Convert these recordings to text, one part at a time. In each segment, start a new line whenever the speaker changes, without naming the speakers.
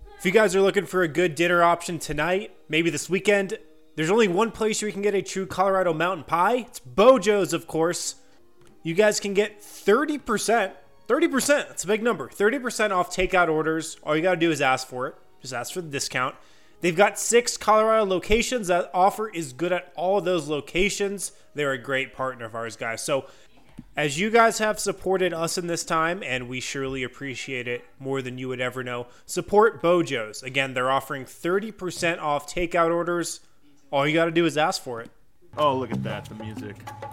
If you guys are looking for a good dinner option tonight, maybe this weekend, there's only one place where you can get a true Colorado mountain pie. It's Bojo's, of course. You guys can get 30%. 30%, that's a big number. 30% off takeout orders. All you got to do is ask for it. Just ask for the discount. They've got 6 Colorado locations. That offer is good at all of those locations. They're a great partner of ours, guys. So as you guys have supported us in this time, and we surely appreciate it more than you would ever know, support Bojo's. Again, they're offering 30% off takeout orders. All you got to do is ask for it.
Oh, look at that, the music.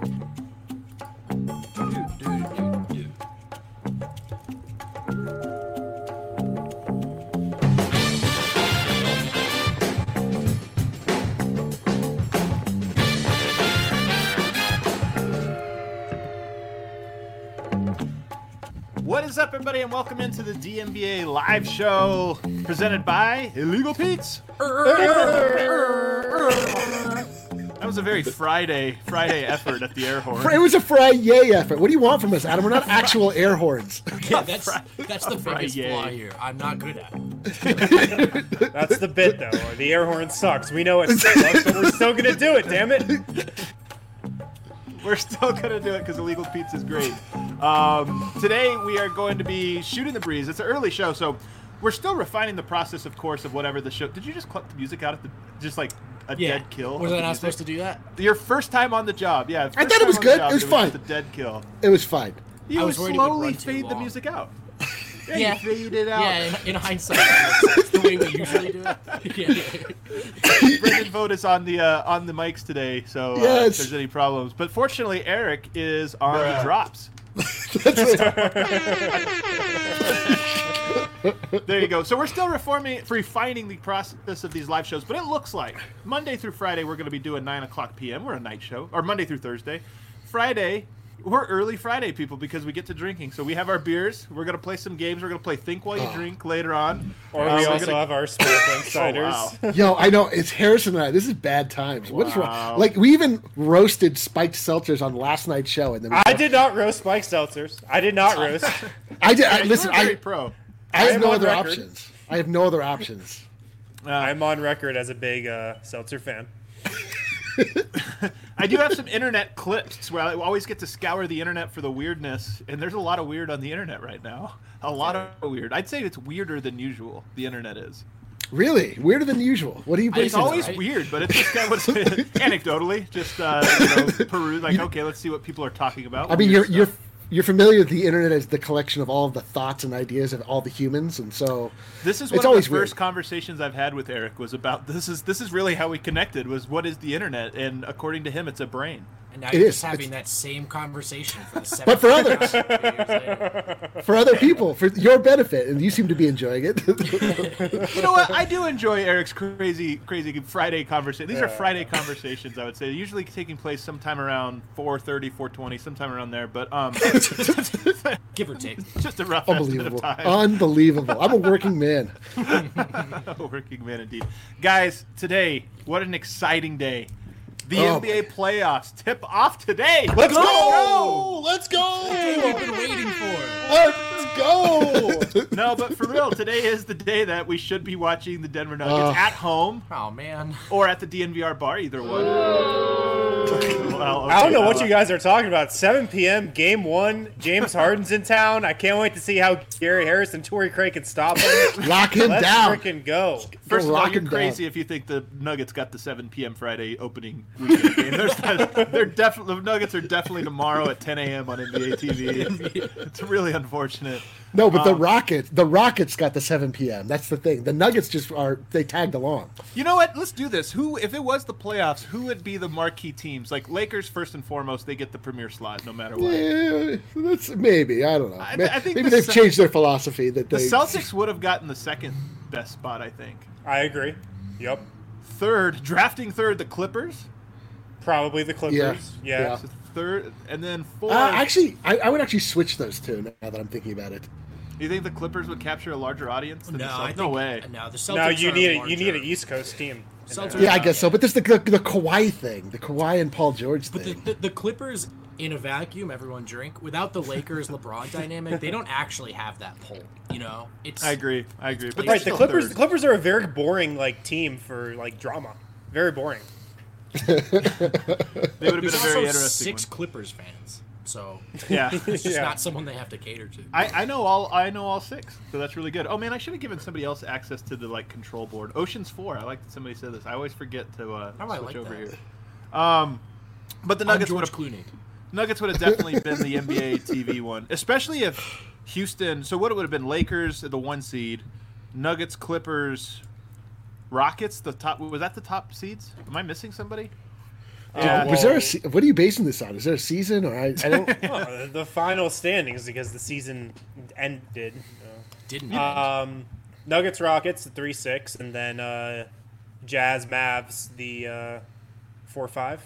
Dude.
What is up, everybody, and welcome into the DNBA live show presented by Illegal Pete's. That was a very Friday effort at the air horn.
It was a Friday effort. What do you want from us, Adam? We're not actual air horns.
Yeah, that's the biggest flaw here. I'm not good at it.
That's the bit, though. The air horn sucks. We know it sucks, but we're still going to do it, damn it.
We're still going to do it because Illegal Pete's is great. Today we are going to be shooting the breeze. It's an early show, so we're still refining the process, of course, of whatever the show. Did you just clip the music out at the just like a dead kill?
Was I not supposed to do that?
Your first time on the job, yeah.
I thought it was good. It was fine.
Just a dead kill.
It was fine.
You
I
would
was worried it would
slowly
run too
fade the
long.
music out. Yeah,
Yeah.
you fade it out.
Yeah, in hindsight, that's the way we usually do it. Yeah.
Brendan Vogt is on the mics today, so if
Yes.
there's any problems. But fortunately, Eric is on the drops. There you go. So we're still refining the process of these live shows, but it looks like Monday through Friday we're going to be doing 9 o'clock p.m. We're a night show, or Monday through Thursday. Friday, we're early Friday people because we get to drinking. So we have our beers. We're going to play some games. We're going to play Think While You Drink later on.
Or we also have our sparkling ciders.
Oh, wow.
Yo, I know. It's Harrison and I. This is bad times. What is wrong? Like, we even roasted spiked seltzers on last night's show. And then
I did not roast Spike Seltzers. I did not roast.
Listen,
You're very pro.
I have
am
no
on
other
record.
options. I have no other options.
I'm on record as a big seltzer fan.
I do have some internet clips where I always get to scour the internet for the weirdness, and there's a lot of weird on the internet right now. A lot of weird. I'd say it's weirder than usual, the internet is.
Really? Weirder than usual. What do you
It's
bring?
always
right?
weird, but it's just kind of anecdotally, just peruse, like, okay, let's see what people are talking about.
I mean,
Weird
you're
stuff.
you're familiar with the internet as the collection of all of the thoughts and ideas of all the humans, and so
This is
it's
one of the
always
first
weird.
conversations I've had with Eric was about this is really how we connected, was what is the internet, and according to him, it's a brain.
And now
It
you're
is.
just having that same conversation for the
But for
7th
others.
time 3 years later.
For other people, for your benefit, and you seem to be enjoying it.
You know what? I do enjoy Eric's crazy Friday conversation. These are Friday conversations, I would say, usually taking place sometime around 4:30, 4:20, sometime around there. But
Give or take.
just a rough estimate
Unbelievable.
of time.
Unbelievable. I'm a working man.
Working man indeed. Guys, today, what an exciting day. The
Oh,
NBA playoffs tip off today.
Let's go!
Let's go!
We've been waiting for.
Let's go!
No, but for real, today is the day that we should be watching the Denver Nuggets at home
Oh man.
or at the DNVR bar, either one. Well,
I don't know
okay,
what you guys are talking about. 7 p.m. Game 1. James Harden's in town. I can't wait to see how Gary Harris and Torrey Craig can stop him.
Lock him
Let's
down.
freaking go.
First of all,
lock
you're
him
crazy
down.
if you think the Nuggets got the 7 p.m. Friday opening weekend game. They're definitely the Nuggets are definitely tomorrow at 10 a.m. on NBA TV. It's really unfortunate.
No, but the Rockets got the 7 p.m. That's the thing. The Nuggets they tagged along.
You know what? Let's do this. If it was the playoffs, who would be the marquee teams? Like Lakers, first and foremost, they get the premier slot no matter what.
Yeah, that's maybe. I don't know.
I think
maybe
the
they've changed their philosophy. That
The
they
Celtics would have gotten the second best spot, I think.
I agree. Yep.
Drafting third, the Clippers.
Probably the Clippers. Yeah.
So third, and then fourth.
Actually, I would actually switch those two now that I'm thinking about it.
You think the Clippers would capture a larger audience than the
No,
Celtics?
I think,
No way.
No, the Celtics
No, you
are
need
larger.
an East Coast team.
Celtics-
Yeah, I guess so. But there's the Kawhi thing, the Kawhi and Paul George
But
thing.
the Clippers, in a vacuum, everyone drink. Without the Lakers LeBron dynamic, they don't actually have that pull. You know,
I agree. But
Right,
they're
the
still
Clippers.
third.
The Clippers are a very boring like team for like drama. Very boring.
They would have been
There's
a
also
very interesting
6 Clippers fans, so
Yeah.
it's just
Yeah.
not someone they have to cater to.
I know all 6, so that's really good. Oh man, I should have given somebody else access to the like control board. Ocean's 4. I like that somebody said this. I always forget to
I
switch
like
over
that.
here. But the
I'm
Nuggets would
George
have
Clooney.
Nuggets would have definitely been the NBA TV one, especially if Houston. So what it would have been: Lakers, the 1 seed, Nuggets, Clippers, Rockets. The top was that the top seeds? Am I missing somebody?
Yeah,
Was there what are you basing this on? Is there a season or I don't?
Oh, the final standings because the season ended.
Didn't
Nuggets, Rockets, the 3-6, and then Jazz, Mavs, the 4-5.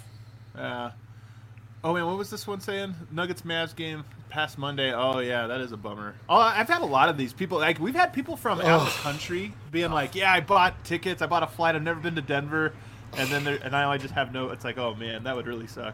Oh man, what was this one saying? Nuggets Mavs game past Monday. Oh yeah, that is a bummer. Oh, I've had a lot of these people. Like we've had people from out of the country being like, "Yeah, I bought tickets. I bought a flight. I've never been to Denver." And then I just have no. It's like, oh man, that would really suck.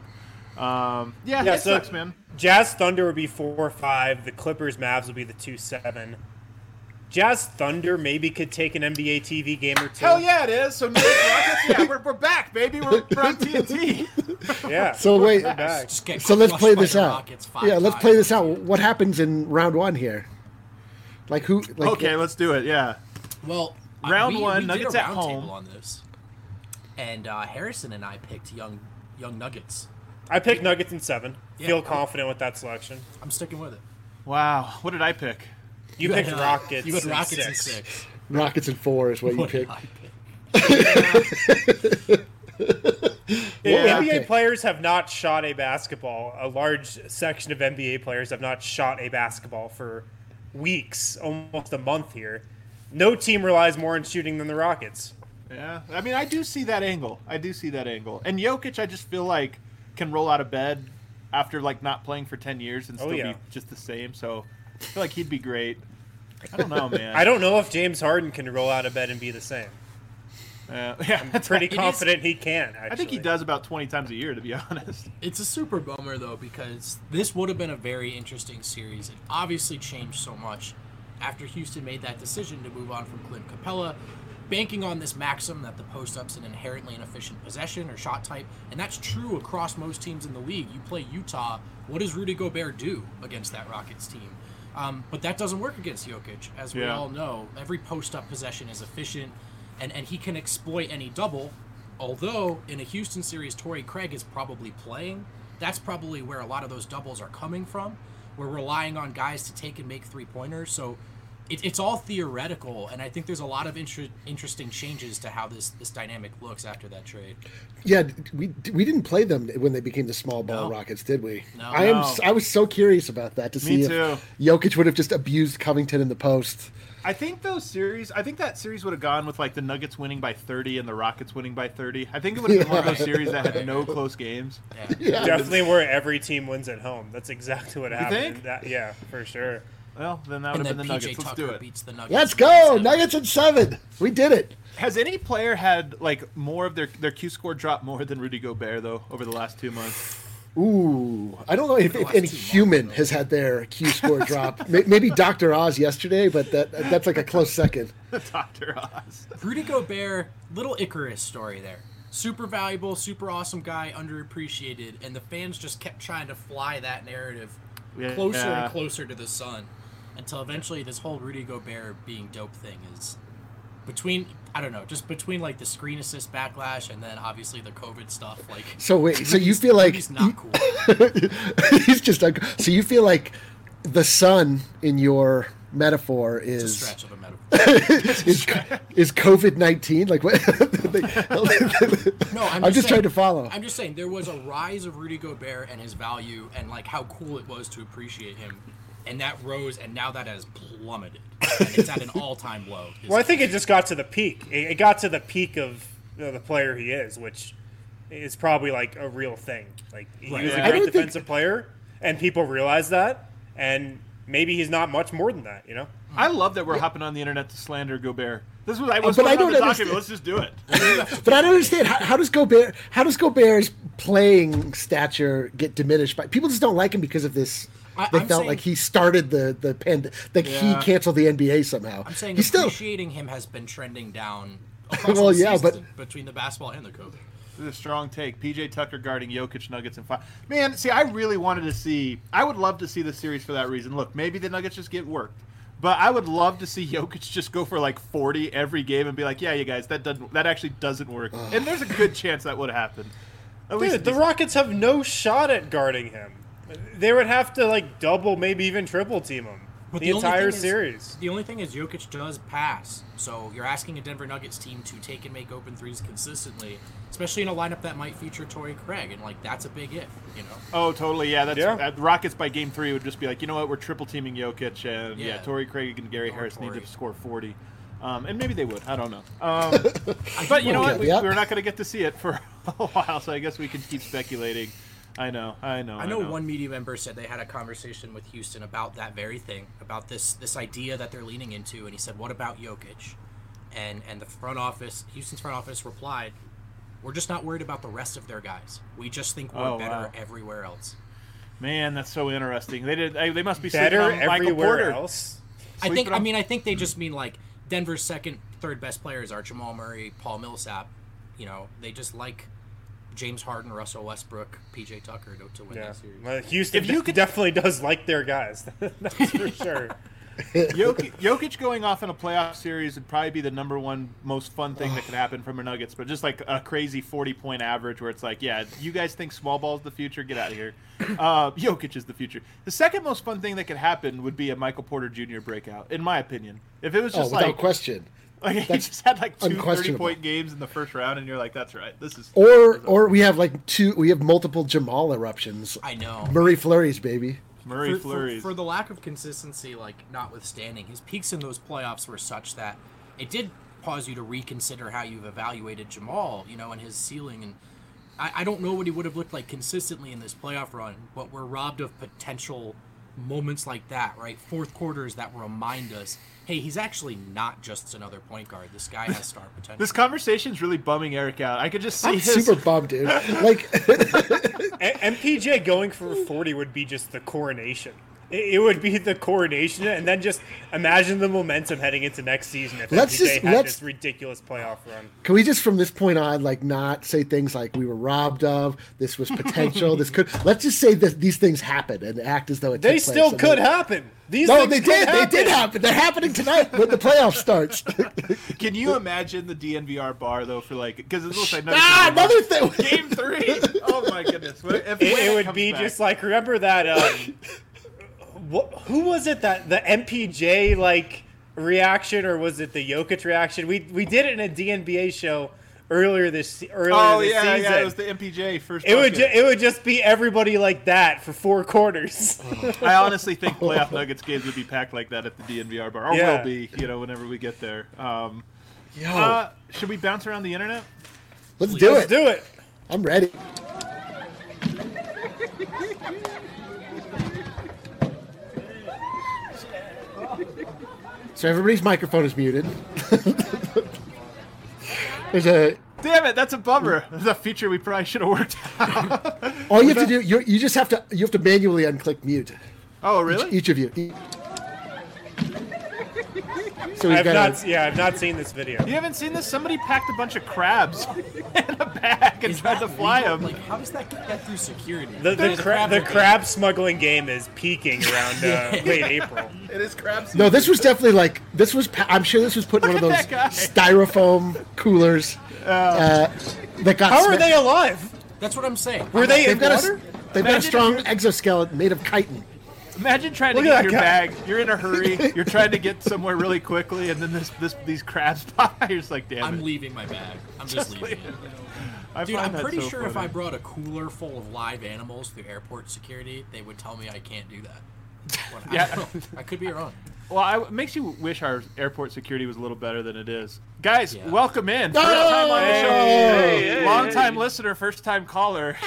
It sucks, man.
Jazz Thunder would be 4-5. The Clippers Mavs would be the 2-7. Jazz Thunder maybe could take an NBA TV game or two.
Hell yeah, it is. So Nuggets Rockets, yeah, we're back, baby. We're on TNT.
Yeah.
So wait,
We're back.
Just get
so let's
crushed
play
by
this
the
out.
Rockets 5
Yeah, let's
times.
play this out. What happens in round 1 here? Like who? Like,
Okay, let's do it. Yeah.
Well,
Round one,
we
Nuggets
did a
at
round
home.
table on this, and Harrison and I picked young Nuggets.
I picked Nuggets in 7.
Yeah.
Feel confident with that selection.
I'm sticking with it.
Wow. What did I pick?
You picked
had,
Rockets.
You had
in
Rockets in
6.
6.
Rockets in 4 is what you
What did
picked.
I pick?
Yeah.
NBA
Okay.
players have not shot a basketball. A large section of NBA players have not shot a basketball for weeks, almost a month here. No team relies more on shooting than the Rockets.
Yeah, I mean, I do see that angle. And Jokic, I just feel like can roll out of bed after like not playing for 10 years and still
yeah.
be just the same. So I feel like he'd be great. I don't know, man.
I don't know if James Harden can roll out of bed and be the same.
Yeah,
I'm pretty confident he can, actually.
I think he does about 20 times a year, to be honest.
It's a super bummer, though, because this would have been a very interesting series. It obviously changed so much after Houston made that decision to move on from Clint Capella, banking on this maxim that the post-up's an inherently inefficient possession or shot type, and that's true across most teams in the league. You play Utah, what does Rudy Gobert do against that Rockets team? But that doesn't work against Jokic, as we all know. Every post-up possession is efficient, and he can exploit any double. Although, in a Houston series, Torrey Craig is probably playing. That's probably where a lot of those doubles are coming from. We're relying on guys to take and make three-pointers. So it's all theoretical, and I think there's a lot of interesting changes to how this dynamic looks after that trade.
Yeah, we didn't play them when they became the small ball
No.
Rockets, did we?
No.
I was so curious about that to see
Me
if
too.
Jokic would have just abused Covington in the post.
I think that series would have gone with like the Nuggets winning by 30 and the Rockets winning by 30. I think it would have been one of those series that had no close games.
Yeah.
Definitely where every team wins at home. That's exactly what happened.
think?
Yeah, for sure.
Well, then that
And
would have
then
been the
PJ
Nuggets. Let's
Tucker
do it.
beats the Nuggets.
Let's
in
go!
7.
Nuggets in 7! We did it!
Has any player had like more of their Q score drop more than Rudy Gobert though over the last 2 months?
Ooh, I don't know if
last
any
2
human
months,
has had their Q score drop. Maybe Dr. Oz yesterday, but that's like a close second.
Dr. Oz.
Rudy Gobert, little Icarus story there. Super valuable, super awesome guy, underappreciated, and the fans just kept trying to fly that narrative closer
Yeah.
and closer to the sun until eventually this whole Rudy Gobert being dope thing is between like the screen assist backlash and then obviously the COVID stuff. Like,
So wait, so you feel like
Rudy's not cool.
he's just like, so you feel like the sun in your metaphor
It's a
is
stretch of a metaphor.
is COVID-19? Like what?
No, I'm
just
saying-
trying to follow.
I'm just saying there was a rise of Rudy Gobert and his value and like how cool it was to appreciate him, and that rose, and now that has plummeted. And it's at an all-time low.
Well, I think it just got to the peak. It got to the peak of the player he is, which is probably like a real thing. Like he
Right.
was
Yeah.
a
I
great
don't think-
defensive player, and people realize that, and maybe he's not much more than that. You know?
I love that we're hopping on the internet to slander Gobert. This was I was
But I
on
don't
the
understand.
document. Let's just do it.
But I don't understand how does Gobert's playing stature get diminished by people just don't like him because of this. They
I'm
felt
saying-
like he started the he canceled the NBA somehow.
I'm saying
he's still
appreciating him has been trending down across
Well,
the
yeah,
season between the basketball and the coach.
This is a strong take. PJ Tucker guarding Jokic, Nuggets, and 5. Man, see, I really wanted to see. I would love to see the series for that reason. Look, maybe the Nuggets just get worked, but I would love to see Jokic just go for like 40 every game and be like, "Yeah, you guys, that actually doesn't work." And there's a good chance that would happen. At least
Dude, the Rockets have no shot at guarding him. They would have to like double, maybe even triple team him the
only
entire
thing is-
series.
The only thing is Jokic does pass, so you're asking a Denver Nuggets team to take and make open threes consistently, especially in a lineup that might feature Torrey Craig, and like that's a big if, you know.
Oh, totally. Yeah, that's
Yeah.
Rockets by game 3 would just be like, you know what, we're triple teaming Jokic, and
Yeah.
Torrey Craig and Gary
Or
Harris need
Torrey.
to score 40. And maybe they would. I don't know. But you know what?
Yeah.
We're not going to get to see it for a while, so I guess we can keep speculating. I know.
I know one media member said they had a conversation with Houston about that very thing, about this idea that they're leaning into, and he said, "What about Jokic?" And the front office, Houston's front office replied, "We're just not worried about the rest of their guys. We just think we're
Oh,
better
wow.
everywhere else."
Man, that's so interesting. They must be
Better
sleeping on Michael
everywhere
Porter.
else.
Sleeping on-
I think they just mean like Denver's second, third best players are Jamal Murray, Paul Millsap. You know, they just like James Harden, Russell Westbrook, PJ Tucker to win
Yeah,
that series.
well, Houston
If you could-
definitely does like their guys. That's for sure.
Jokic going off in a playoff series would probably be the number one most fun thing that could happen from a Nuggets, but just like a crazy 40-point average where it's like, yeah, you guys think small ball is the future? Get out of here. Jokic is the future. The second most fun thing that could happen would be a Michael Porter Jr. breakout, in my opinion. If it was just
without
like,
question.
like he
That's
just had like two
unquestionable.
30-point games in the first round, and you're like, that's right. This is
Or we have multiple Jamal eruptions.
I know.
Murray flurries, baby.
Murray
for,
flurries.
for the lack of consistency, like notwithstanding, his peaks in those playoffs were such that it did cause you to reconsider how you've evaluated Jamal, you know, and his ceiling. And I don't know what he would have looked like consistently in this playoff run, but we're robbed of potential moments like that, right? Fourth quarters that remind us, hey, he's actually not just another point guard. This guy has star potential.
This conversation's really bumming Eric out. I could just see
I'm
his
super bummed, dude. Like,
MPJ going for 40 would be just the coronation. It would be the coronation, and then just imagine the momentum heading into next season if MPJ had this ridiculous playoff run.
can we just from this point on, like, not say things like we were robbed of, this was potential, this could. Let's just say that these things happened and act as though it.
They
took place.
still
And
could
they-
happen. These
No,
things
they
could
did.
happen.
They did happen. They're happening tonight when the playoff starts.
Can you imagine the DNVR bar though for like because it looks like
Another thing.
Game 3. Oh my goodness! When
It would
comes
be
back.
just like, remember that who was it, that the MPJ like reaction, or was it the Jokic reaction? We did it in a DNBA show earlier this season.
It was the MPJ first.
It would just be everybody like that for 4 quarters.
I honestly think playoff Nuggets games would be packed like that at the DNVR bar, or
Yeah.
will be, whenever we get there.
Yo,
Should we bounce around the internet?
let's do
Let's
it.
do it.
I'm ready. So everybody's microphone is muted. There's a.
Damn it, that's a bummer. That's a feature we probably should have worked out.
All you have to do, you just have to manually unclick mute.
Oh, really?
Each of you. So we've
I've
got.
not seen this video.
You haven't seen this? Somebody packed a bunch of crabs in a bag and tried to fly
legal?
them.
Like, how does that get through security?
The crab smuggling game is peaking around late April.
It is crabs.
No, this was definitely like I'm sure this was put in one of those
Look at that guy.
styrofoam coolers that got.
How are they alive?
That's what I'm saying.
Were they in
They've got
water?
they've got a
Imagine
strong
if
exoskeleton made of chitin.
Imagine trying to
Look at
get
that
your
guy.
bag. You're in a hurry. You're trying to get somewhere really quickly, and then these crabs pop. You're just like, damn
I'm
it.
leaving my bag. I'm just leaving it. Dude,
find
I'm
that
pretty
so
sure if
funny.
I brought a cooler full of live animals through airport security, they would tell me I can't do that. But
Yeah.
I don't know. I could be wrong.
Well, it makes you wish our airport security was a little better than it is. Guys,
Yeah.
welcome in. First time on the show.
Hey,
Long time
hey.
listener, first time caller.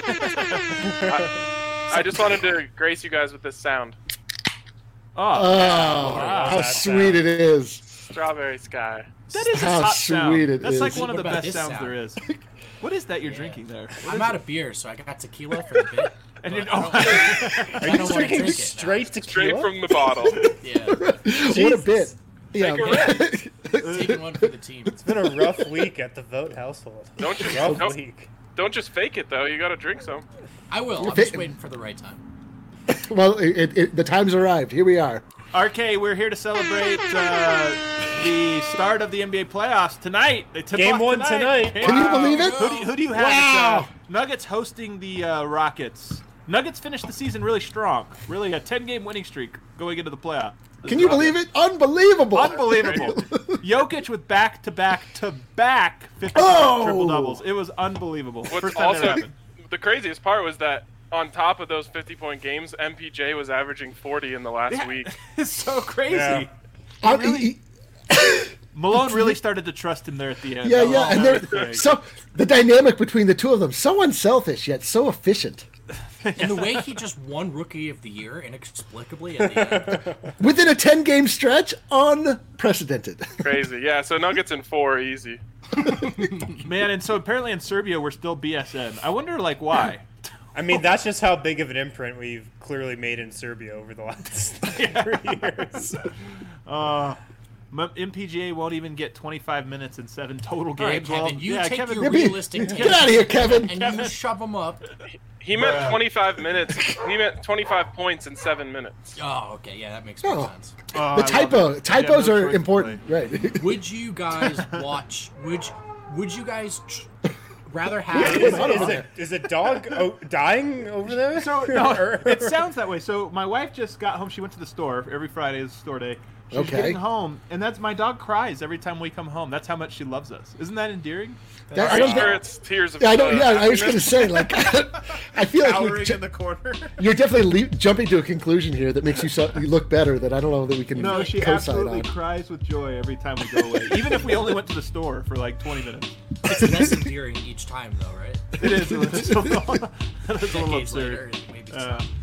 I just wanted to grace you guys with this sound.
Oh,
Oh, how
that
sweet it is.
Strawberry Sky.
That is a
How
top
sweet
sound.
it
That's
is.
like one of the
What about
best
this
sounds
sound?
there is. What is that you're drinking there? What
I'm
is
out of beer, so I got tequila for the bit.
And
but
you're,
I don't wanna
Drinking
drink it
straight
Straight
tequila?
from the bottle.
now. Yeah,
What a bit. Yeah.
taking one for the team.
It's been a rough week at the Vote household.
Don't you-
Rough
don't-
week.
Don't just fake it though. You gotta drink some.
I will. I'm just waiting for the right time.
Well, the time's arrived. Here we are.
RK, we're here to celebrate the start of the NBA playoffs tonight. They tip
Game
off
one tonight.
Game-
Can you believe it?
Who do you have?
Wow.
It's, Nuggets hosting the Rockets. Nuggets finished the season really strong. Really a 10-game winning streak going into the playoffs.
Can you believe it? Unbelievable.
Unbelievable. Jokic with back-to-back 50
Oh!
triple-doubles. It was unbelievable.
What's
First time that
also
happened.
the craziest part was that on top of those 50-point games, MPJ was averaging 40 in the last week.
It's so crazy.
Yeah.
Malone really started to trust him there at the end.
Yeah,
That was-
yeah, and
that was
they're
great.
so the dynamic between the two of them so unselfish yet so efficient.
And the way he just won Rookie of the Year inexplicably at the end.
Within a 10-game stretch, unprecedented.
Crazy. Yeah, so Nuggets in 4, easy.
Man, and so apparently in Serbia we're still BSN. I wonder, like, why?
I mean, that's just how big of an imprint we've clearly made in Serbia over the last 3 years.
MPGA won't even get 25 minutes in 7 total
All right,
games.
Kevin, you take
Kevin,
your
Yeah, be-
realistic
Get
take
out of here, Kevin.
and you shove them up.
He meant 25 minutes. He meant 25 points in 7 minutes.
Oh, okay, yeah, that makes more
Oh.
sense.
Oh,
The
I love it.
typos
Yeah, no
are
choice to
important,
play.
right?
Would you guys watch? Would you guys rather have?
Is a dog dying over there?
So no, it sounds that way. So my wife just got home. She went to the store. Every Friday is store day. She's
Okay.
getting home, and that's my dog cries every time we come home. That's how much she loves us. Isn't that endearing?
I
I'm
don't
sure
think-
it's tears of
Yeah, I don't. Yeah, I was going to
happiness.
say, like, I feel like
Cowering in the corner.
you're definitely jumping to a conclusion here that makes you look better. That I don't know that we can
No, she
co-sign
absolutely
on.
cries with joy every time we go away. Even if we only went to the store for like 20 minutes.
It's less endearing each time, though, right?
It is. It's a little
Decades later,
absurd.
maybe.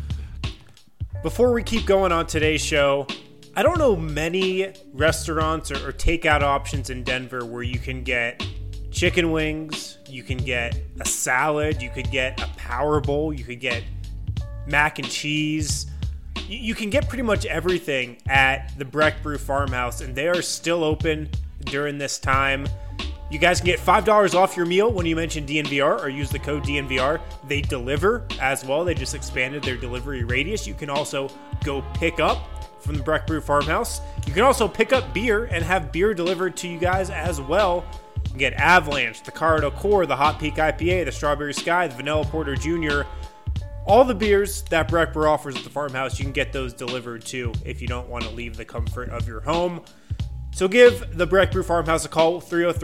Before we keep going on today's show, I don't know many restaurants or takeout options in Denver where you can get chicken wings, you can get a salad, you could get a power bowl, you could get mac and cheese. You can get pretty much everything at the Breck Brew Farmhouse, and they are still open during this time. You guys can get $5 off your meal when you mention DNVR or use the code DNVR. They deliver as well. They just expanded their delivery radius. You can also go pick up from the Breck Brew Farmhouse. You can also pick up beer and have beer delivered to you guys as well. You can get Avalanche, the Colorado Core, the Hot Peak IPA, the Strawberry Sky, the Vanilla Porter Jr., all the beers that Breck Brew offers at the farmhouse, you can get those delivered too if you don't want to leave the comfort of your home. So give the Breck Brew Farmhouse a call,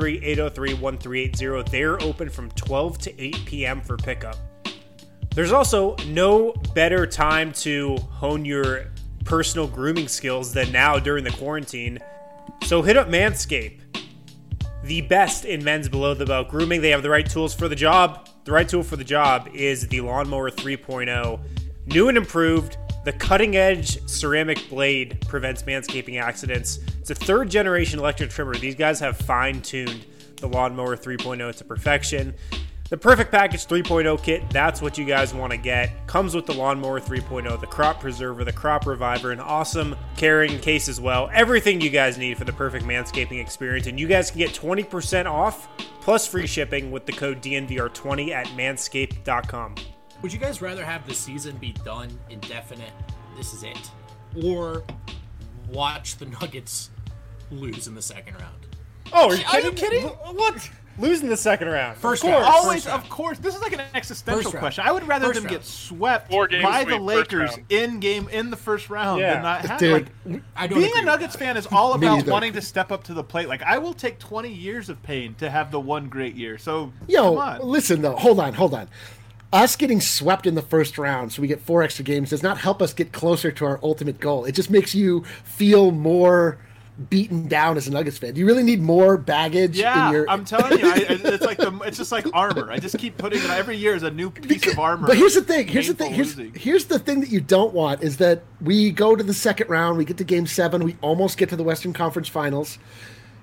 303-803-1380. They're open from 12 to 8 p.m. for pickup. There's also no better time to hone your personal grooming skills than now during the quarantine. So hit up Manscaped, the best in men's below-the-belt grooming. They have the right tools for the job. The right tool for the job is the Lawnmower 3.0. New and improved, the cutting-edge ceramic blade prevents manscaping accidents. It's a third-generation electric trimmer. These guys have fine-tuned the Lawnmower 3.0 to perfection. The Perfect Package 3.0 kit, that's what you guys want to get. Comes with the Lawnmower 3.0, the Crop Preserver, the Crop Reviver, an awesome carrying case as well. Everything you guys need for the perfect manscaping experience. And you guys can get 20% off plus free shipping with the code DNVR20 at manscaped.com.
Would you guys rather have the season be done indefinite, this is it, or watch the Nuggets lose in the second round?
Oh,
Are you kidding?
What? Losing the second round.
First
of
round.
course.
Always,
First round.
of course. This is like an existential
First round.
question. I would rather
First
them
round.
get swept
4 game
by
sweep,
the
first
Lakers
round.
in the first round
Yeah.
than not have.
Dude,
Like,
I don't
being
agree
a
with
Nuggets
that.
fan is all
Me
about
neither.
wanting to step up to the plate. Like, I will take 20 years of pain to have the one great year. So, come
Yo,
on.
listen though. Hold on. Us getting swept in the first round, so we get 4 extra games, does not help us get closer to our ultimate goal. It just makes you feel more beaten down as a Nuggets fan. Do you really need more baggage
Yeah,
in your?
I'm telling you, it's just like armor. I just keep putting it every year as a new piece of armor.
But here's the thing. Here's
losing.
the thing that you don't want is that we go to the second round, we get to Game 7, we almost get to the Western Conference Finals.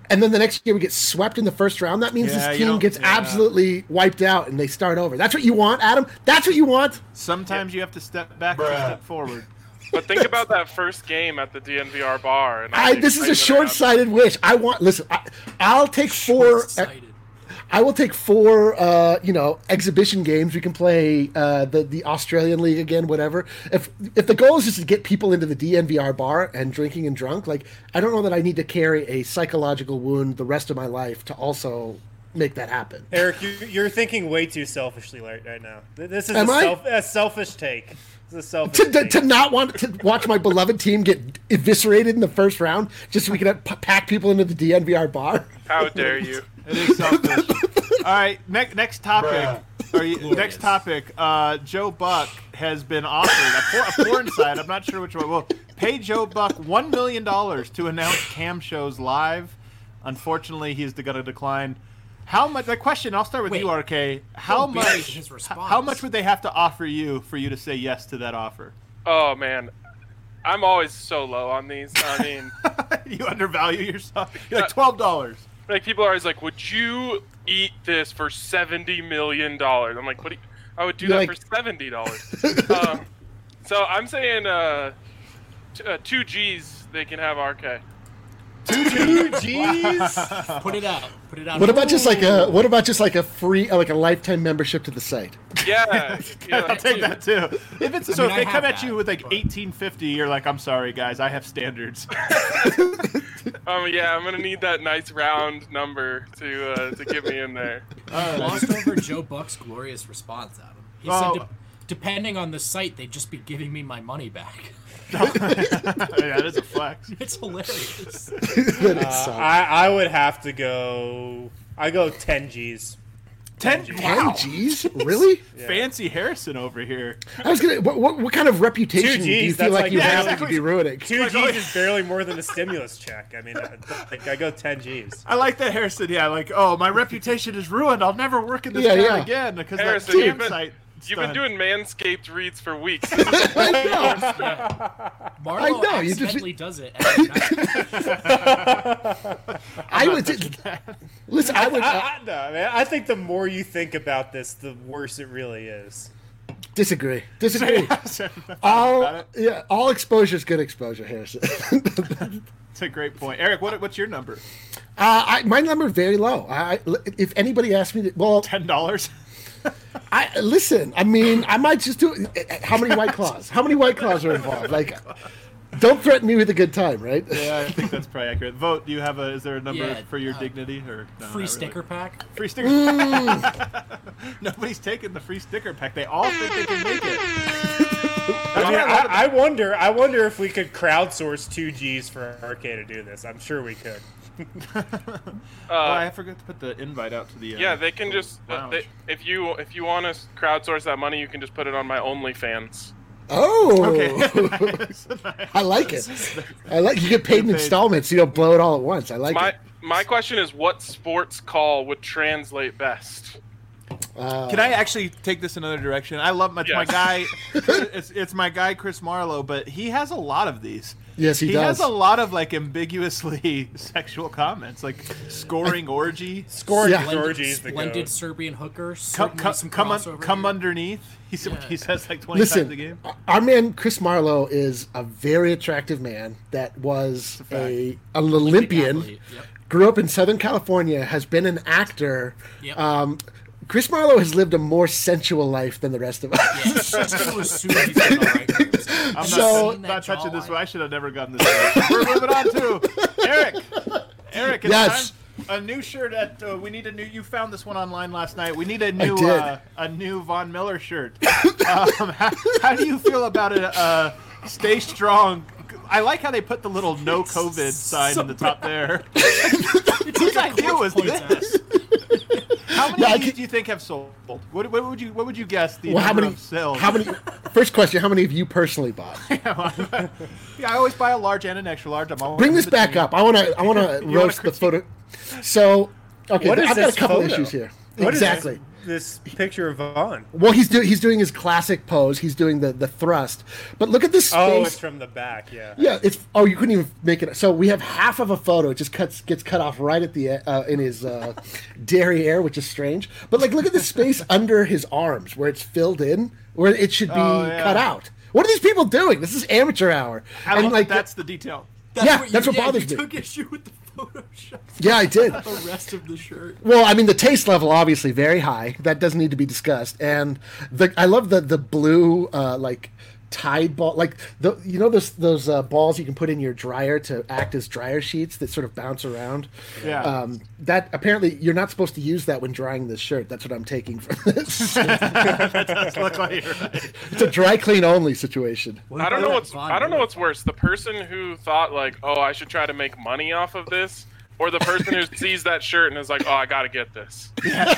and then the next year we get swept in the first round, that means this team gets absolutely wiped out and they start over. That's what you want, Adam? That's what you want?
Sometimes you have to step back and step forward.
But think about that first game at the DNVR bar. And
this is a short-sighted wish. I'll take 4. I will take 4, exhibition games. We can play the Australian League again, whatever. If the goal is just to get people into the DNVR bar and drinking and drunk, like, I don't know that I need to carry a psychological wound the rest of my life to also make that happen.
Eric, you're thinking way too selfishly right now. This is a selfish take. This is a selfish take.
To not want to watch my beloved team get eviscerated in the first round just so we can pack people into the DNVR bar.
How dare you?
It is selfish. All right, next topic. Next topic. Joe Buck has been offered a porn site. I'm not sure which one. Well, pay Joe Buck $1 million to announce cam shows live. Unfortunately, he's going to decline. How much? The question. I'll start with you, RK. How much would they have to offer you for you to say yes to that offer?
Oh man, I'm always so low on these. I mean,
you undervalue yourself. You're like $12.
Like, people are always like, would you eat this for $70 million? I'm like, I would do that for $70. So I'm saying 2 G's, they can have RK.
2 G's?
Put it out.
What about just like a free, like a lifetime membership to the site?
Yeah.
I'll take that too. If they come at you with like $18.50, you're like, I'm sorry guys, I have standards.
Yeah, I'm gonna need that nice round number to get me in there.
Lost over Joe Buck's glorious response, Adam. He said, depending on the site, they'd just be giving me my money back.
That is a flex.
It's hilarious.
I would have to go. I go 10 G's.
10
G's? Really?
Yeah. Fancy Harrison over here.
I was gonna. What kind of reputation do you feel like you have to be ruining?
2 G's is barely more than a stimulus check. I mean, I go 10 G's.
I like that, Harrison. Yeah, like, oh, my reputation is ruined. I'll never work in this town again because
Harrison,
that site.
You've been doing Manscaped reads for weeks.
Marlo accidentally does it every night.
I would listen.
I think the more you think about this, the worse it really is.
Disagree. All exposure is good exposure, Harrison.
That's a great point. Eric, what's your number?
My number is very low. If anybody asked me,
$10.
Listen. I mean, I might just do. How many White Claws? How many White Claws are involved? Like, don't threaten me with a good time, right?
Yeah, I think that's probably accurate. Vote. Do you have is there a number for your dignity or no,
free sticker pack?
Free sticker. Nobody's taking the free sticker pack. They all think they can make it.
I wonder if we could crowdsource 2 G's for RK to do this. I'm sure we could.
I forgot to put the invite out to the.
They can just if you want to crowdsource that money, you can just put it on my OnlyFans.
Oh,
okay.
I like it. You get paid in installments. So you don't blow it all at once. I like it.
My question is, what sports call would translate best?
Can I actually take this another direction? I love my guy. It's my guy Chris Marlowe, but he has a lot of these.
Yes, he does.
He has a lot of like ambiguously sexual comments, like scoring orgy.
Scoring orgy is the
splendid Serbian hooker.
Come underneath. He says like 20 times a game.
Our man Chris Marlowe is a very attractive man that was an Olympian. Yep. Grew up in Southern California. Has been an actor.
Yep.
Chris Marlowe has lived a more sensual life than the rest of us.
I'm not touching this one. I should have never gotten this one. We're moving on to Eric. It's time. A new shirt we need a new. You found this one online last night. We need a new Von Miller shirt. How do you feel about it? Stay strong. I like how they put the little no COVID sign in the top there. Whose idea was this? How many of these do you think have sold? What would you guess the number of sales?
First question: how many have you personally bought?
I always buy a large and an extra large.
Bring this back up. I want to roast the photo. So, okay, I've got a couple issues here. Exactly.
this picture of Vaughn?
Well, he's doing his classic pose. He's doing the thrust. But look at this space.
Oh, it's from the back. Yeah.
Yeah, you couldn't even make it. So we have half of a photo. It just gets cut off right at the in his derriere, which is strange. But like, look at the space under his arms where it's filled in, where it should be cut out. What are these people doing? This is amateur hour.
That's the detail.
That's what bothers me.
You took issue with the Photoshop.
Yeah, I did.
The rest of the shirt.
Well, I mean, the taste level obviously very high. That doesn't need to be discussed. And I love the blue like Tide ball, like those balls you can put in your dryer to act as dryer sheets that sort of bounce around.
Yeah.
That apparently you're not supposed to use that when drying this shirt. That's what I'm taking from this.
That does look like you're right.
It's a dry clean only situation.
I don't know what's worse. The person who thought like, oh, I should try to make money off of this, or the person who sees that shirt and is like, oh, I gotta get this.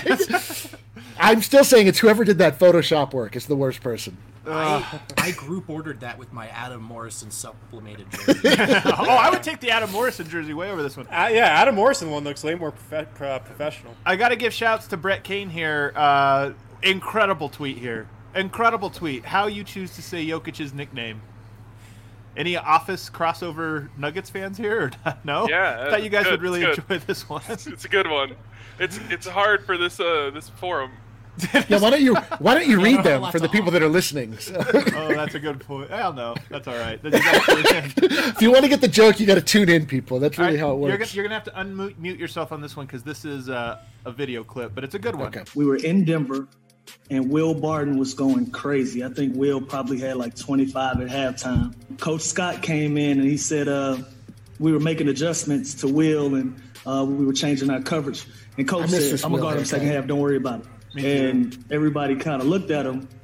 I'm still saying it's whoever did that Photoshop work is the worst person.
I group ordered that with my Adam Morrison supplemented jersey.
I would take the Adam Morrison jersey way over this one.
Yeah, Adam Morrison one looks way more professional.
I got to give shouts to Brett Kane here. Incredible tweet here. Incredible tweet. How you choose to say Jokic's nickname. Any Office crossover Nuggets fans here? Or no?
Yeah.
I thought you guys would really enjoy this one.
It's a good one. It's hard for this forum.
Yeah, why don't you read them for the people that are listening? So.
Oh, that's a good point. Hell no, that's all right.
If you want to get the joke, you got to tune in, people. That's really how it works.
You're gonna have to unmute yourself on this one because this is a video clip, but it's a good one.
Okay.
We were in Denver, and Will Barton was going crazy. I think Will probably had like 25 at halftime. Coach Scott came in and he said we were making adjustments to Will and we were changing our coverage. And Coach said, "I'm gonna guard him second half. Don't worry about it." And everybody kind of looked at him,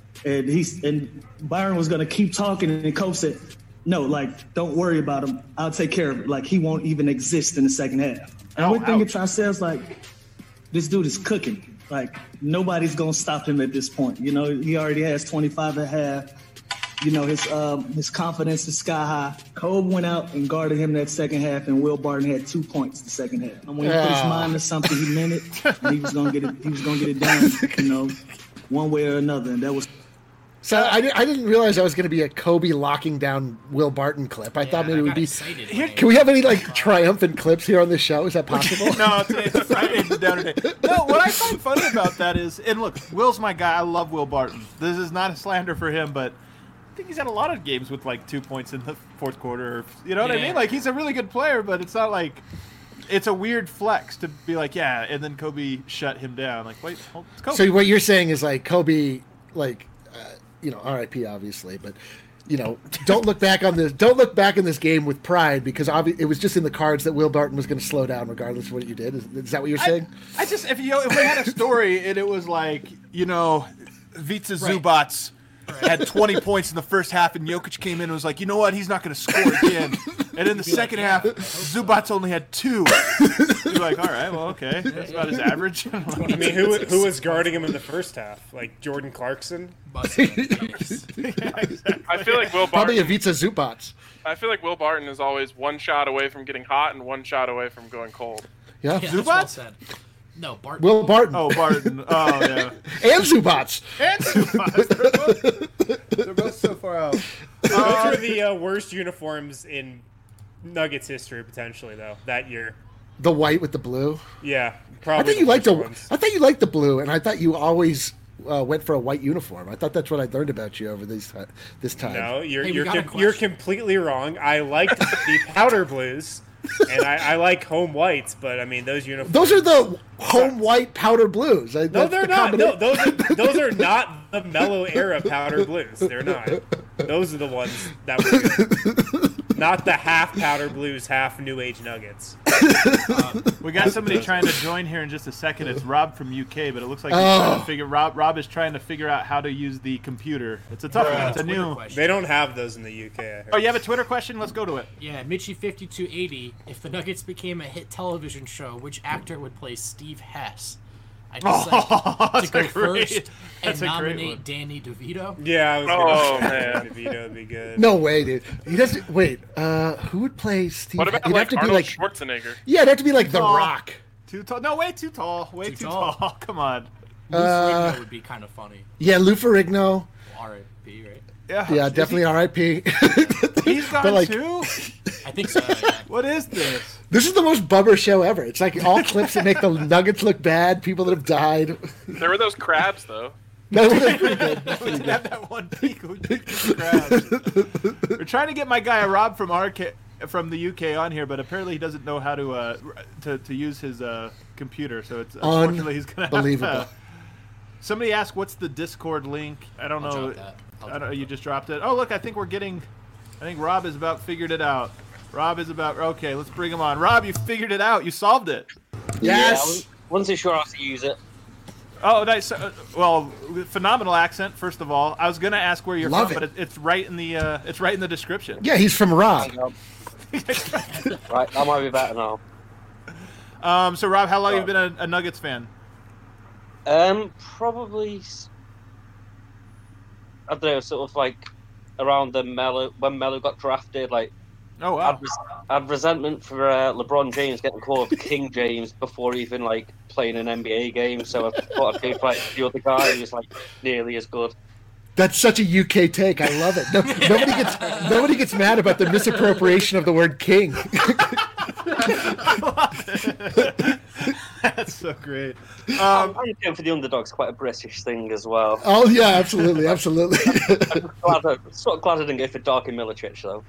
and Byron was going to keep talking, and Coach said, "No, like, don't worry about him. I'll take care of it. Like, he won't even exist in the second half." And we're thinking to ourselves, like, this dude is cooking. Like, nobody's going to stop him at this point. You know, he already has 25 at half. You know, his confidence is sky high. Kobe went out and guarded him that second half, and Will Barton had 2 points the second half. And when he put his mind to something, he meant it, and he was gonna get it. He was gonna get it done, you know, one way or another. And that was.
So I didn't realize that was going to be a Kobe locking down Will Barton clip. I thought maybe it would be. Can we have any like triumphant clips here on this show? Is that possible?
No, it's Friday. It's down today. No, what I find funny about that is, and look, Will's my guy. I love Will Barton. This is not a slander for him, but I think he's had a lot of games with like 2 points in the fourth quarter. You know what I mean? Like, he's a really good player, but it's not like it's a weird flex to be like, yeah, and then Kobe shut him down. Like, wait, it's Kobe.
So what you're saying is like Kobe, like, you know, R.I.P. obviously, but you know, don't look back on this. Don't look back in this game with pride because it was just in the cards that Will Barton was going to slow down regardless of what you did. Is that what you're saying?
I just if we had a story and it was like, you know, Vica Zubats had 20 points in the first half, and Jokic came in and was like, you know what, he's not going to score again. And in the second half, Zubats only had 2. You're like, all right, well, okay, that's about his average.
I mean, who was guarding him in the first half? Like Jordan Clarkson?
Yeah, exactly. I feel like Will Barton.
Probably a Vica Zubats.
I feel like Will Barton is always one shot away from getting hot and one shot away from going cold.
Yeah,
Zubats? Well said. No, Barton.
Will Barton.
Oh, Barton. Oh, yeah.
And Zubats.
And Zubats. They're both so far out.
Those were the worst uniforms in Nuggets history, potentially, though, that year.
The white with the blue.
Yeah, probably.
I thought you liked the blue, and I thought you always went for a white uniform. I thought that's what I learned about you over this time.
No, you're completely wrong. I liked the powder blues. And I like home whites, but I mean those uniforms.
Those are the home white powder blues.
No, they're not. No, those are not the mellow era powder blues. They're not. Those are the ones that were good. Not the half powder blues, half New Age Nuggets.
We got somebody trying to join here in just a second. It's Rob from UK, but it looks like he's trying to figure. Rob is trying to figure out how to use the computer. It's a tough one. It's a new.
They don't have those in the UK. I heard.
Oh, you have a Twitter question? Let's go to it.
Yeah, Mitchie5280. If the Nuggets became a hit television show, which actor would play Steve Hess? I just like to go first and nominate Danny DeVito.
Yeah, I was
Oh
gonna
man,
DeVito would be good.
No way, dude. He doesn't. Wait, who would play Steve?
What about
He'd
like
have to
Arnold
be like
Schwarzenegger?
Yeah, it'd have to be like The Rock.
Too tall? No, way too tall. Way too tall. Come on.
Lou Ferrigno would be kind of funny.
Yeah, Lou Ferrigno.
R.I.P. Right?
Yeah, definitely R.I.P.
He's gone too?
I think so. Yeah.
What is this?
This is the most bummer show ever. It's like all clips that make the Nuggets look bad, people that have died.
There were those crabs, though.
No, that's pretty good.
We did have that one peak. We did the crabs. We're trying to get my guy Rob from the UK on here, but apparently he doesn't know how to use his computer. So it's unfortunately he's gonna have to. Somebody asked, "What's the Discord link?" I don't know. I don't know. You just dropped it. Oh, look! I think Rob has about figured it out. Okay, let's bring him on. Rob, you figured it out. You solved it.
Yes.
Yeah, I wasn't too sure how to use it.
Oh, nice. Well, phenomenal accent. First of all, I was gonna ask where you're from, but it's right in the description.
Yeah, he's from Rob.
Right, that might be better now.
So Rob, how long have you been a Nuggets fan?
Probably, I don't know, sort of like around when Melo got drafted. Like,
oh wow,
I had resentment for LeBron James getting called King James before even like playing an NBA game. So I thought I'd go for like the other guy who was like nearly as good.
That's such a UK take. I love it. Nobody gets mad about the misappropriation of the word king.
That's so great.
I'm going for the underdogs, quite a British thing as well.
Oh yeah, absolutely.
I'm sort of glad I didn't go for Darko Milicic though.